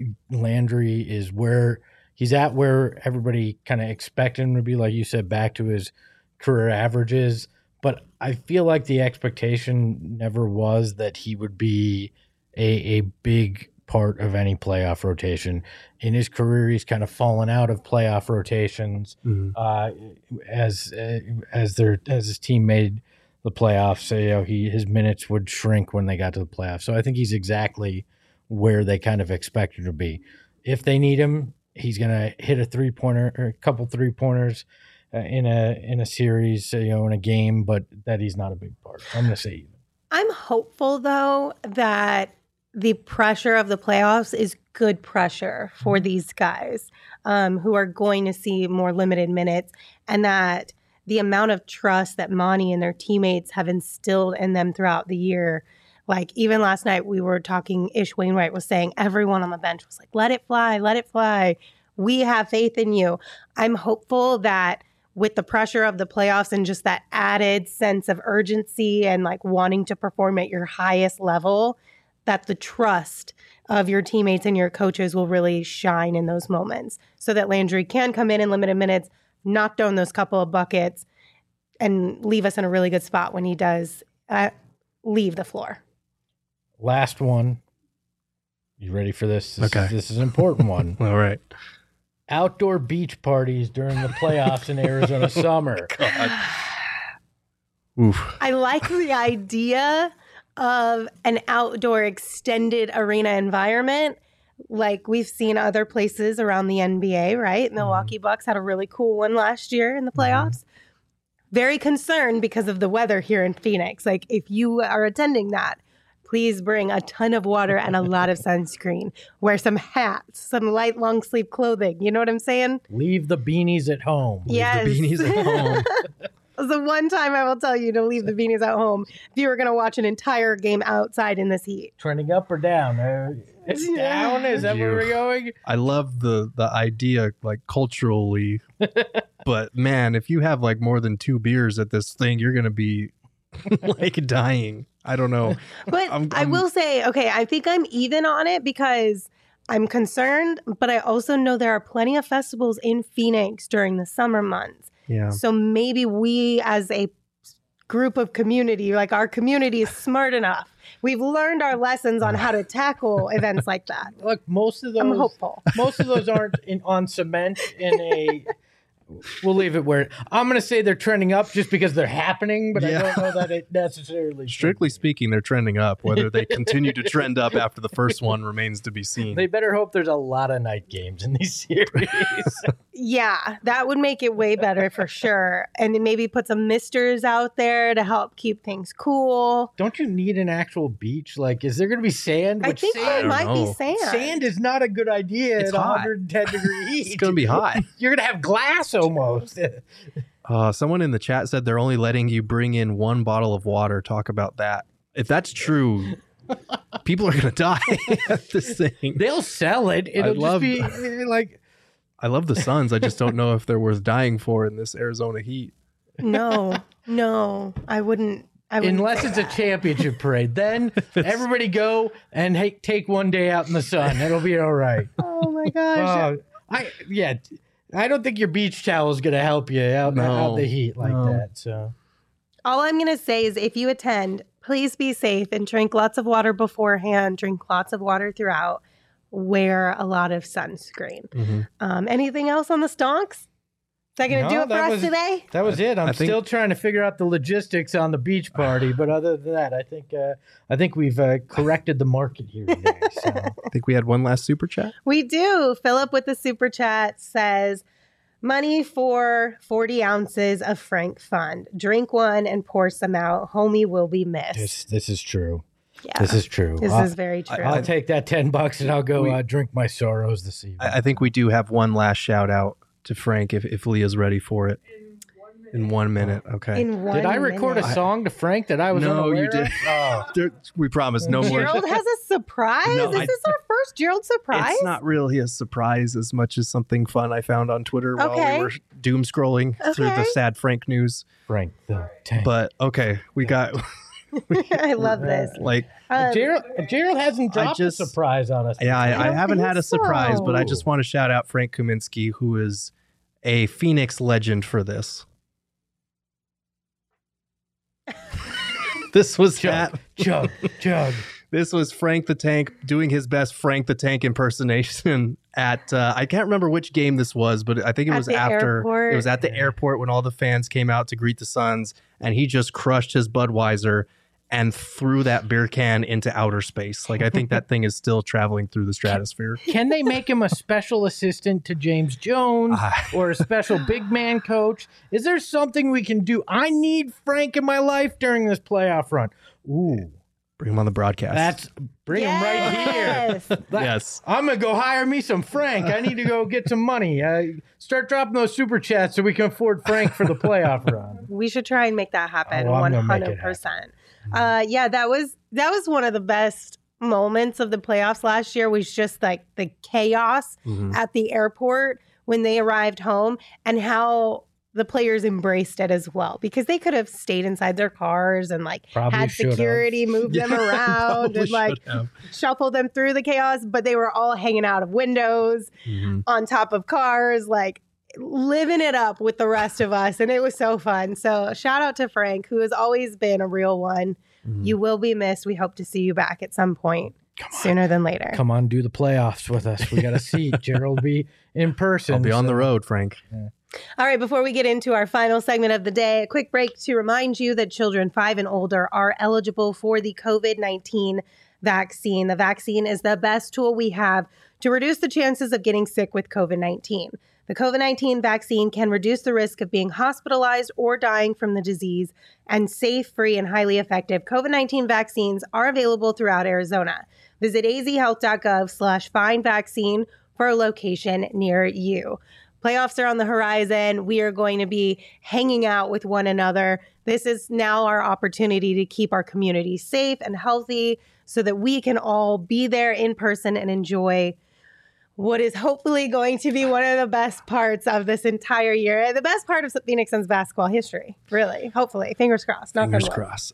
Landry is where he's at, where everybody kind of expected him to be, like you said, back to his career averages. But I feel like the expectation never was that he would be a, a big part of any playoff rotation. In his career, he's kind of fallen out of playoff rotations mm-hmm. uh, as uh, as their as his team made the playoffs. So, you know, he his minutes would shrink when they got to the playoffs. So I think he's exactly where they kind of expect him to be. If they need him, he's going to hit a three pointer or a couple three pointers uh, in a in a series, you know, in a game, but that he's not a big part. I'm going to say even. I'm hopeful though that the pressure of the playoffs is good pressure for these guys um, who are going to see more limited minutes, and that the amount of trust that Monty and their teammates have instilled in them throughout the year. Like even last night we were talking, Ish Wainwright was saying everyone on the bench was like, let it fly, let it fly. We have faith in you. I'm hopeful that with the pressure of the playoffs and just that added sense of urgency and like wanting to perform at your highest level, that the trust of your teammates and your coaches will really shine in those moments so that Landry can come in in limited minutes, knock down those couple of buckets, and leave us in a really good spot when he does uh, leave the floor. Last one. You ready for this? This okay. Is, this is an important one. All right. Outdoor beach parties during the playoffs in Arizona summer. God. Oof. I like the idea of an outdoor extended arena environment like we've seen other places around the N B A, right? Mm-hmm. Milwaukee Bucks had a really cool one last year in the playoffs. Mm-hmm. Very concerned because of the weather here in Phoenix. Like if you are attending that, please bring a ton of water and a lot of sunscreen. Wear some hats, some light long sleeve clothing. You know what I'm saying? Leave the beanies at home. Yes. Leave the beanies at home. It's the one time I will tell you to leave the beanies at home if you were going to watch an entire game outside in this heat. Trending up or down? Uh, it's down? Is that where we're going? I love the, the idea, like, culturally. But, man, if you have, like, more than two beers at this thing, you're going to be, like, dying. I don't know. But I'm, I'm, I will say, okay, I think I'm even on it because I'm concerned, but I also know there are plenty of festivals in Phoenix during the summer months. Yeah. So maybe we as a group of community, like our community is smart enough. We've learned our lessons on how to tackle events like that. Look, most of those I'm hopeful. Most of those aren't in, on cement in a we'll leave it where I'm going to say they're trending up just because they're happening, but yeah. I don't know that it necessarily. Strictly speaking, they're trending up. Whether they continue to trend up after the first one remains to be seen. They better hope there's a lot of night games in these series. Yeah, that would make it way better for sure. And then maybe put some misters out there to help keep things cool. Don't you need an actual beach? Like, is there going to be sand? I Which think sand, there might know. be sand. Sand is not a good idea it's at hot. one hundred ten degree heat. It's going to be hot. You're going to have glass almost. Uh, someone in the chat said they're only letting you bring in one bottle of water. Talk about that. If that's true, people are going to die at this thing. They'll sell it. It'll I love, just be like... I love the Suns. I just don't know if they're worth dying for in this Arizona heat. No. No, I wouldn't. I wouldn't Unless say it's that. a championship parade. Then everybody go and hey, take one day out in the sun. It'll be all right. Oh my gosh. Uh, I yeah, I don't think your beach towel is going to help you out, No, out the heat like no. that. So All I'm going to say is if you attend, please be safe and drink lots of water beforehand, drink lots of water throughout, wear a lot of sunscreen. Mm-hmm. Um, anything else on the stonks? Is that going to No, do it for that us was- today? that was it. I'm I think- still trying to figure out the logistics on the beach party, but other than that, I think uh, I think we've uh, corrected the market here today. So. I think we had one last super chat. We do. Philip with the super chat says, money for forty ounces of Frank Fund. Drink one and pour some out. Homie will be missed. This this is true. yeah, This is true. this I'll, is very true. I'll take that ten bucks and I'll go We- uh, drink my sorrows this evening. I, I think we do have one last shout out to Frank if, if Leah's ready for it. In one minute. Okay. In one Did I record minute. a song to Frank that I was No, unaware you did. of? Oh. There- we promise no more. Gerald has a surprise? No, is I- this our first Gerald surprise? It's not really a surprise as much as something fun I found on Twitter while Okay. we were doom scrolling through the Okay. sad Frank news. Frank the Tank. But okay, we got I love this. like Um, Gerald, Gerald hasn't I dropped just- a surprise on us. yeah, I I, I don't haven't think had a surprise, but I so. just want to shout out Frank Kaminsky, who is a Phoenix legend for this. This was Chug, that. chug, chug. This was Frank the Tank doing his best Frank the Tank impersonation at uh, I can't remember which game this was, but I think it At was the after airport. it was at the airport when all the fans came out to greet the Suns, and he just crushed his Budweiser and threw that beer can into outer space. Like I think that thing is still traveling through the stratosphere. Can they make him a special assistant to James Jones Ah. or a special big man coach? Is there something we can do? I need Frank in my life during this playoff run. Ooh, Bring him on the broadcast. that's bring him right here. Yes. yes. I'm gonna go hire me some Frank. I need to go get some money. Uh, start dropping those super chats so we can afford Frank for the playoff run. We should try and make that happen Oh, I'm one gonna make it hundred percent. Uh, yeah, that was that was one of the best moments of the playoffs last year. Was just like the chaos Mhm. at the airport when they arrived home and how the players embraced it as well, because they could have stayed inside their cars and like Probably had should have. security move them Yeah, around probably and like should have. shuffle them through the chaos, but they were all hanging out of windows, Mhm. on top of cars, like living it up with the rest of us. And it was so fun. So shout out to Frank, who has always been a real one. Mhm. You will be missed. We hope to see you back at some point sooner than later. Come on, do the playoffs with us. We got a seat. Gerald will be in person. I'll be on so- the road, Frank. All right, before we get into our final segment of the day, a quick break to remind you that children five and older are eligible for the COVID nineteen vaccine. The vaccine is the best tool we have to reduce the chances of getting sick with COVID nineteen. The COVID nineteen vaccine can reduce the risk of being hospitalized or dying from the disease, and safe, free, and highly effective COVID nineteen vaccines are available throughout Arizona. Visit azhealth.gov slash find vaccine for a location near you. Playoffs are on the horizon. We are going to be hanging out with one another. This is now our opportunity to keep our community safe and healthy so that we can all be there in person and enjoy what is hopefully going to be one of the best parts of this entire year. The best part of Phoenix Suns basketball history, really. Hopefully. Fingers crossed. Knock on Fingers wood. crossed.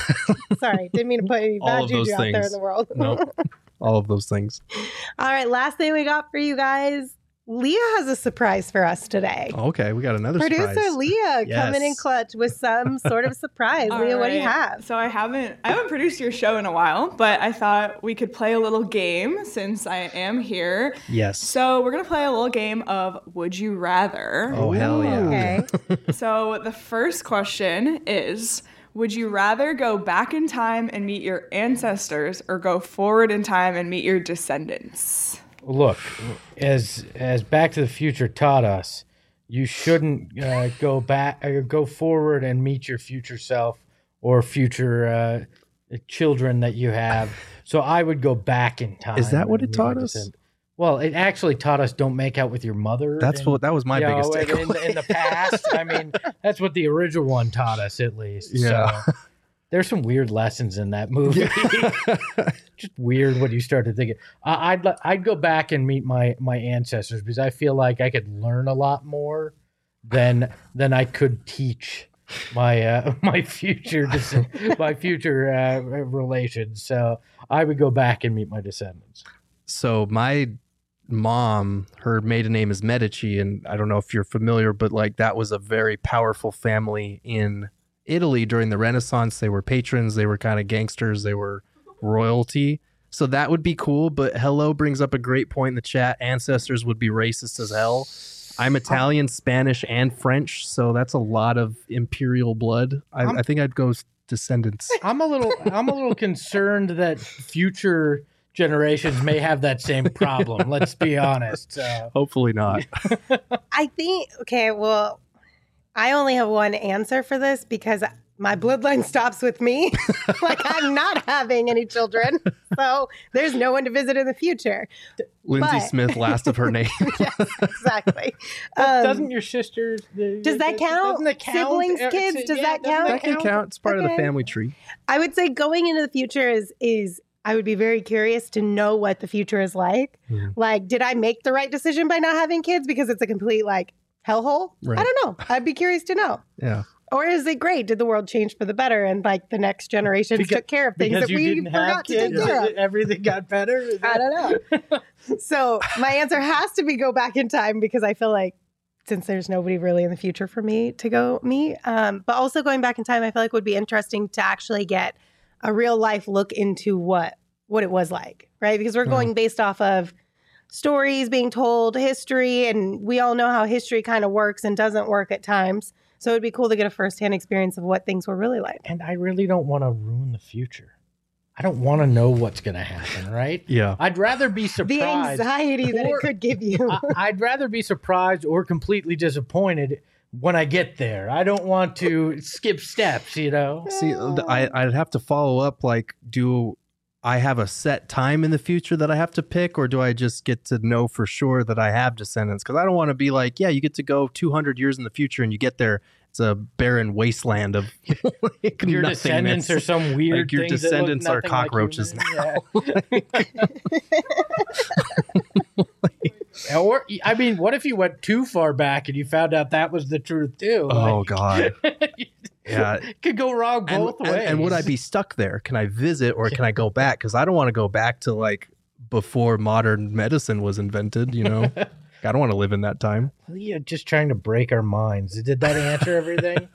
Sorry, didn't mean to put any All bad of those juju out there in things. the world. Nope. All of those things. All right, last thing we got for you guys. Leah has a surprise for us today. Okay, we got another Producer surprise. Leah coming in Yes. clutch with some sort of surprise. All Leah, what do you right. have? So I haven't I haven't produced your show in a while, but I thought we could play a little game since I am here. Yes. So we're gonna play a little game of Would You Rather. Oh, hell yeah. Okay. So the first question is, would you rather go back in time and meet your ancestors or go forward in time and meet your descendants? Look, as as Back to the Future taught us, you shouldn't uh, go back or go forward and meet your future self or future uh, children that you have. So I would go back in time. Is that what and it meet taught my us? descend- Well, it actually taught us don't make out with your mother. That's and- what that was my you biggest know, in, takeaway. in, the, in the past. I mean, that's what the original one taught us, at least. Yeah. So, there's some weird lessons in that movie. Just weird what you start to think. I, I'd li- I'd go back and meet my my ancestors because I feel like I could learn a lot more than than I could teach my uh, my future des- my future uh, relations. So I would go back and meet my descendants. So my mom, her maiden name is Medici, and I don't know if you're familiar, but like that was a very powerful family in Italy during the Renaissance. They were patrons, they were kind of gangsters, they were royalty. So that would be cool. But Hello brings up a great point in the chat. Ancestors would be racist as hell. I'm Italian, Spanish, and French, so that's a lot of imperial blood. I, I think I'd go s- descendants. I'm a little I'm a little concerned that future generations may have that same problem. Let's be honest. Uh, Hopefully not. I think, okay, well, I only have one answer for this because my bloodline stops with me. Like, I'm not having any children. So there's no one to visit in the future. Lindsay But- Smith, last of her name. Yes, exactly. but Um, doesn't your sister? does that count? Doesn't it count? Siblings, Uh, kids, it's- does yeah, that doesn't count? That can count. It's part of Okay. the family tree. I would say going into the future is is I would be very curious to know what the future is like. Mhm. Like, did I make the right decision by not having kids because it's a complete like hellhole? Right. I don't know. I'd be curious to know. Yeah. Or is it great? Did the world change for the better and like the next generations Because- took care of things Because that you we didn't have forgot to take kids, care of? everything got better. Is I that- don't know. So my answer has to be go back in time because I feel like since there's nobody really in the future for me to go meet. Um, but also going back in time, I feel like would be interesting to actually get a real life look into what what it was like, right? Because we're going based off of stories being told, history, and we all know how history kind of works and doesn't work at times. So it'd be cool to get a firsthand experience of what things were really like. And I really don't want to ruin the future. I don't want to know what's going to happen, right? Yeah. I'd rather be The surprised. anxiety that Or- it could give you. I, I'd rather be surprised or completely disappointed when I get there. I don't want to skip steps, you know? See, th- I, I'd have to follow up. Like, do I have a set time in the future that I have to pick, or do I just get to know for sure that I have descendants? Because I don't want to be like, yeah, you get to go two hundred years in the future and you get there, it's a barren wasteland of like Your nothingness. descendants are some weird Like, your things that look descendants are nothing like cockroaches human. Yeah. Or, I mean, what if you went too far back and you found out that was the truth too? Oh Like, God. Yeah. it could go wrong And, both and, ways. and would I be stuck there? Can I visit or can I go back? Because I don't want to go back to like before modern medicine was invented, you know? I don't want to live in that time. Yeah, just trying to break our minds. Did that answer everything?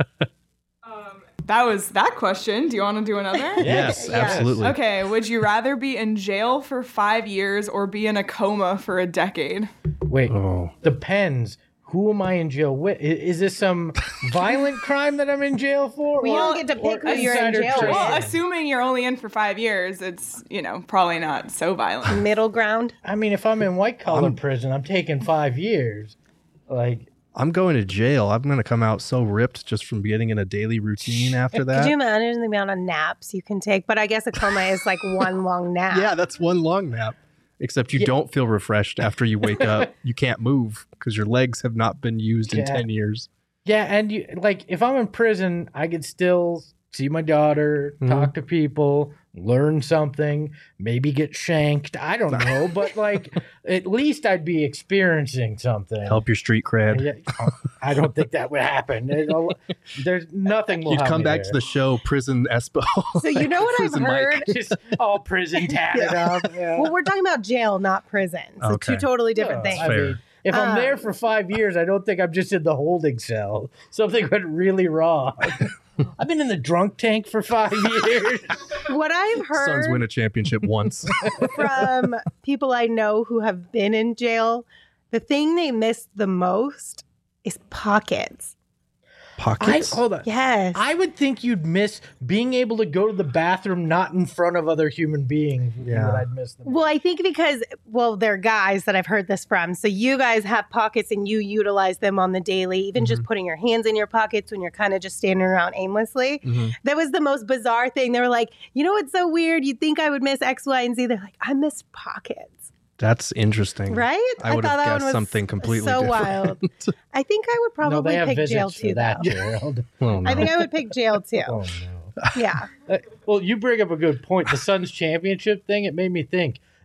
Um, that was that question. Do you want to do another? Yes, Yes. absolutely. Okay, would you rather be in jail for five years or be in a coma for a decade? Wait, Oh. depends. Who am I in jail with? I- Is this some violent crime that I'm in jail for? We or- don't get to pick or who you're in insider jail with. trading? Well, assuming you're only in for five years, it's, you know, probably not so violent. Middle ground. I mean, if I'm in white collar I'm- prison, I'm taking five years. Like, I'm going to jail. I'm going to come out so ripped just from getting in a daily routine after that. Could you imagine the amount of naps you can take? But I guess a coma is like one long nap. Yeah, that's one long nap. Except you Yeah. don't feel refreshed after you wake up. You can't move because your legs have not been used in Yeah. ten years. yeah, and you like if I'm in prison, I could still see my daughter, Mhm. talk to people, learn something, maybe get shanked. I don't know, but like at least I'd be experiencing something. Help your street cred. Yeah, I don't think that would happen. There's, a- there's nothing. Will You'd have come me back to there. the show Prison Espo. So you know what I've Prison Mike. heard? Just all prison tatted up. Yeah. Well, we're talking about jail, not prison. So Okay. two totally different Yeah, things. I Fair. mean, if I'm Um, there for five years, I don't think I'm just in the holding cell. Something went really wrong. I've been in the drunk tank for five years. What I've Suns win heard a championship once. from people I know who have been in jail, the thing they miss the most is pockets. I, Pockets. hold on. Yes. I would think you'd miss being able to go to the bathroom not in front of other human beings. Yeah. That I'd miss them. Well, I think because, well, they're guys that I've heard this from. So you guys have pockets and you utilize them on the daily, even just putting your hands in your pockets when you're kind of just standing around aimlessly. Mhm. That was the most bizarre thing. They were like, you know what's so weird? You'd think I would miss X, Y, and Z. They're like, I miss pockets. That's interesting. Right? I would have thought that guessed one was something completely so different. wild. I think I would no, probably they have pick visits jail for too, that, though. Gerald. Oh, no. I think I would pick jail too. Oh no. Yeah. Uh, well, you bring up a good point. The Suns championship thing, it made me think.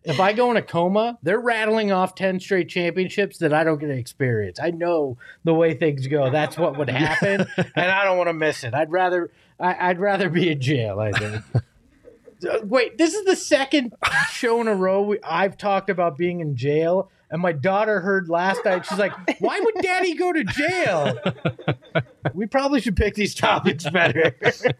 if I go in a coma, they're rattling off ten straight championships that I don't get to experience. I know the way things go. That's what would happen, and I don't want to miss it. I'd rather I, I'd rather be in jail, I think. Wait, this is the second show in a row we, I've talked about being in jail, and my daughter heard last night. She's like, why would Daddy go to jail? We probably should pick these topics better.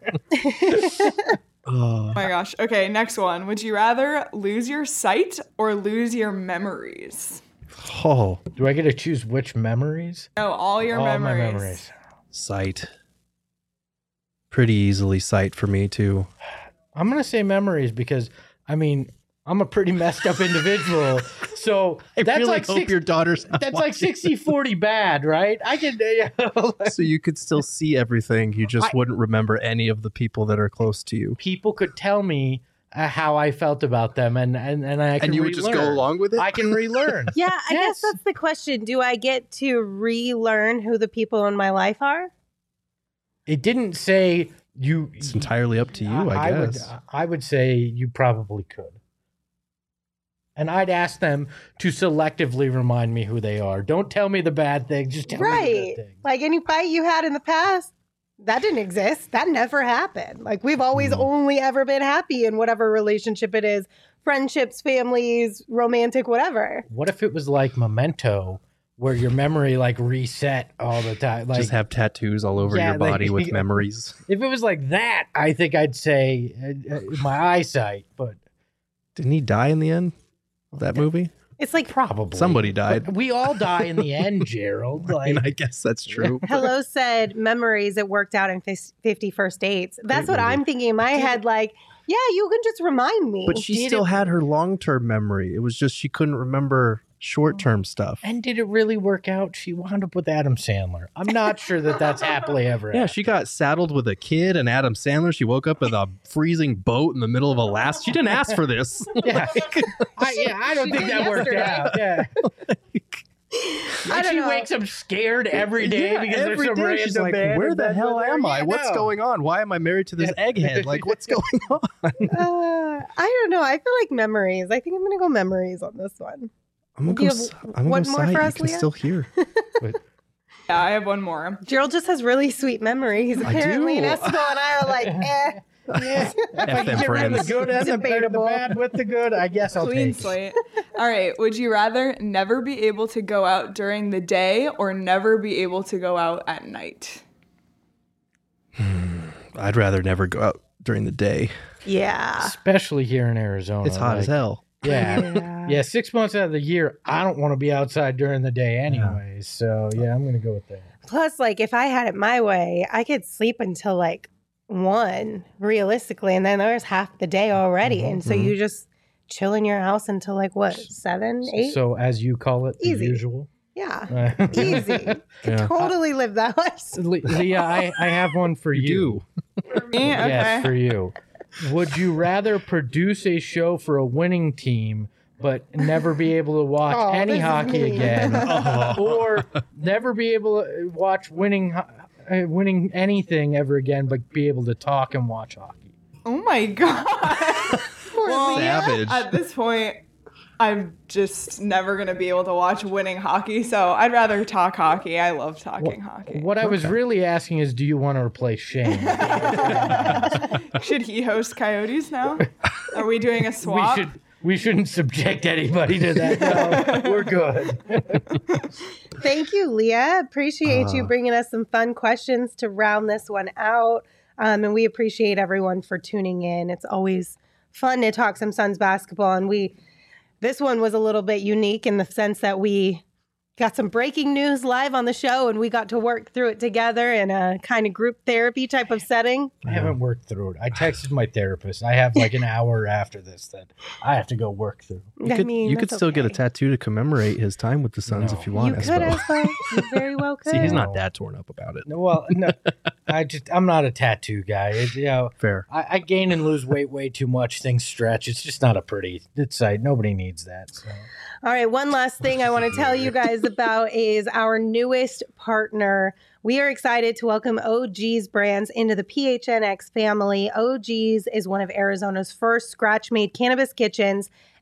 Oh my gosh. Okay, next one. Would you rather lose your sight or lose your memories? Oh, Do I get to choose which memories? No, all your All memories. my memories. sight. Pretty easily sight for me too. I'm going to say memories because, I mean, I'm a pretty messed up individual. So I that's really like hope six, your daughter's not that's like watching. sixty forty bad, right? I can, you know, So you could still see everything. You just I- wouldn't remember any of the people that are close to you. people could tell me uh, how I felt about them, and and, and I can And you would just go relearn. along with it? I can relearn. Yeah, I Yes. guess that's the question. Do I get to relearn who the people in my life are? It didn't say you. It's entirely up to you, I, would, guess. I would say you probably could. And I'd ask them to selectively remind me who they are. Don't tell me the bad things. Just tell me the Right. good things. Like any fight you had in the past, that didn't exist. That never happened. Like we've always Hmm. only ever been happy in whatever relationship it is, friendships, families, romantic, whatever. What if it was like Memento, where your memory like reset all the time? Like just have tattoos all over Yeah, your body like- with memories. if it was like that, I think I'd say uh, uh, my eyesight, but Didn't he die in the end of that movie? It's like probably Somebody died. But we all die in the end, Gerald. I mean, Like, I guess that's true. Hello said memories it worked out in fis- fifty First Dates. That's Great what movie. I'm thinking in my head. Like, yeah, you can just remind me. But she Did still it- had her long-term memory. It was just she couldn't remember short-term stuff. and did it really work out? She wound up with Adam Sandler. I'm not sure that that's happily ever. Yeah, after. she got saddled with a kid and Adam Sandler. She woke up in a freezing boat in the middle of Alaska. She didn't ask for this. Yeah, I, yeah, I don't She think did that worked yesterday. out. Yeah, I And don't she know. wakes up scared every day Yeah, because every there's some day random she's like, man in where the bed hell with her." am I? Yeah, What's no. going on? Why am I married to this egghead? Like, what's going on? Uh, I don't know. I feel like memories. I think I'm gonna go memories on this one. I'm gonna Do you go. have s- I'm gonna one go more sight. for You us, can Leah? still hear. Yeah, I have one more. Gerald just has really sweet memories. I Apparently, do. and Esteban and I are like, eh. Yeah. If I F can them get rid of the friends. good and the, the Debatable. bad with the good, I guess I'll Clean take it. slate. All right. Would you rather never be able to go out during the day or never be able to go out at night? I'd rather never go out during the day. Yeah. Especially here in Arizona. It's hot as like, hell. Yeah. Yeah. Yeah, six months out of the year, I don't want to be outside during the day anyways. So, yeah, I'm going to go with that. Plus, like, if I had it my way, I could sleep until like one, realistically, and then there's half the day already. Mhm, and so mhm. you just chill in your house until like what, seven, eight? So, as you call it, the Easy. usual. yeah. Uh, Easy. Yeah. Totally live that life. Le- Leah, I, I have one for you. You For me? Okay. Yes, for you. Would you rather produce a show for a winning team but never be able to watch Oh, any this is hockey mean. again, or never be able to watch winning ho- uh, winning anything ever again, but be able to talk and watch hockey? Oh my God. well, Savage. at this point, I'm just never going to be able to watch winning hockey. So I'd rather talk hockey. I love talking hockey. What I was really asking is, do you want to replace Shane? Should he host Coyotes now? Are we doing a we swap? should. We shouldn't subject anybody to that. No, we're good. Thank you, Leah. Appreciate you Uh. bringing us some fun questions to round this one out. Um, and we appreciate everyone for tuning in. It's always fun to talk some Suns basketball. And we, this one was a little bit unique in the sense that we got some breaking news live on the show and we got to work through it together in a kind of group therapy type of setting. I haven't worked through it. I texted my therapist. I have like an hour after this that I have to go work through. You I could, mean, you could that's still get a okay. tattoo to commemorate his time with the Suns No. if you want. You could, Espo. Espo. You very well could. See, he's not that torn up about it. No, well, no, I just I'm not a tattoo guy. It, you know, Fair. I, I gain and lose weight way too much. Things stretch. It's just not a pretty it's sight. Nobody needs that. So. All right, one last thing I want to tell you guys about is our newest partner. We are excited to welcome O G's Brands into the P H N X family. O G's is one of Arizona's first scratch-made cannabis kitchens,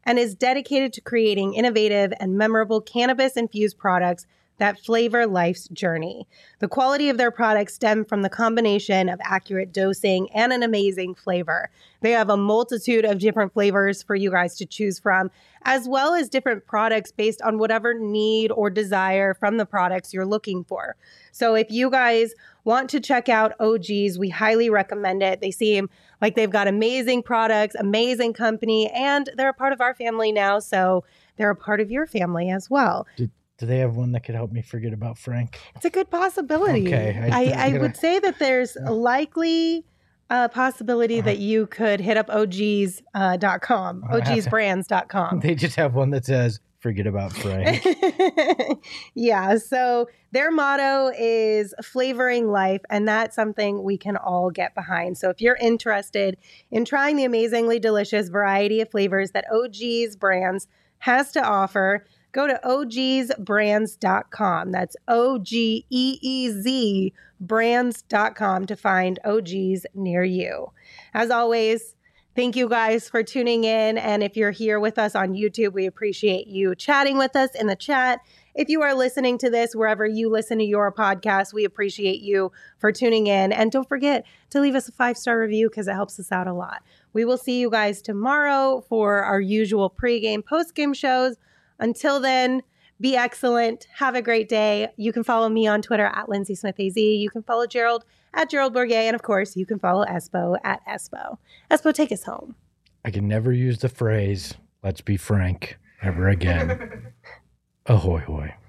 and is dedicated to creating innovative and memorable cannabis-infused products that flavor life's journey. The quality of their products stem from the combination of accurate dosing and an amazing flavor. They have a multitude of different flavors for you guys to choose from, as well as different products based on whatever need or desire from the products you're looking for. So if you guys want to check out O G's, we highly recommend it. They seem like they've got amazing products, amazing company, and they're a part of our family now, so they're a part of your family as well. Do, do they have one that could help me forget about Frank? It's a good possibility. Okay, I- I, I, I'm gonna- would say that there's a likely uh, possibility Uh-huh. that you could hit up O G's dot com, I have to- O Gs brands dot com. They just have one that says, forget about Frank. Yeah, so their motto is flavoring life, and that's something we can all get behind. So if you're interested in trying the amazingly delicious variety of flavors that O G's Brands has to offer, go to O Gs brands dot com. That's O G E E Z brands dot com to find O Gs near you. As always, thank you guys for tuning in. And if you're here with us on YouTube, we appreciate you chatting with us in the chat. If you are listening to this wherever you listen to your podcast, we appreciate you for tuning in. And don't forget to leave us a five-star review because it helps us out a lot. We will see you guys tomorrow for our usual pregame, postgame shows. Until then, be excellent. Have a great day. You can follow me on Twitter at Lindsay Smith A Z. You can follow Gerald at Gerald Bourget. And of course, you can follow Espo at Espo. Espo, take us home. I can never use the phrase, let's be frank, ever again. Ahoy hoy.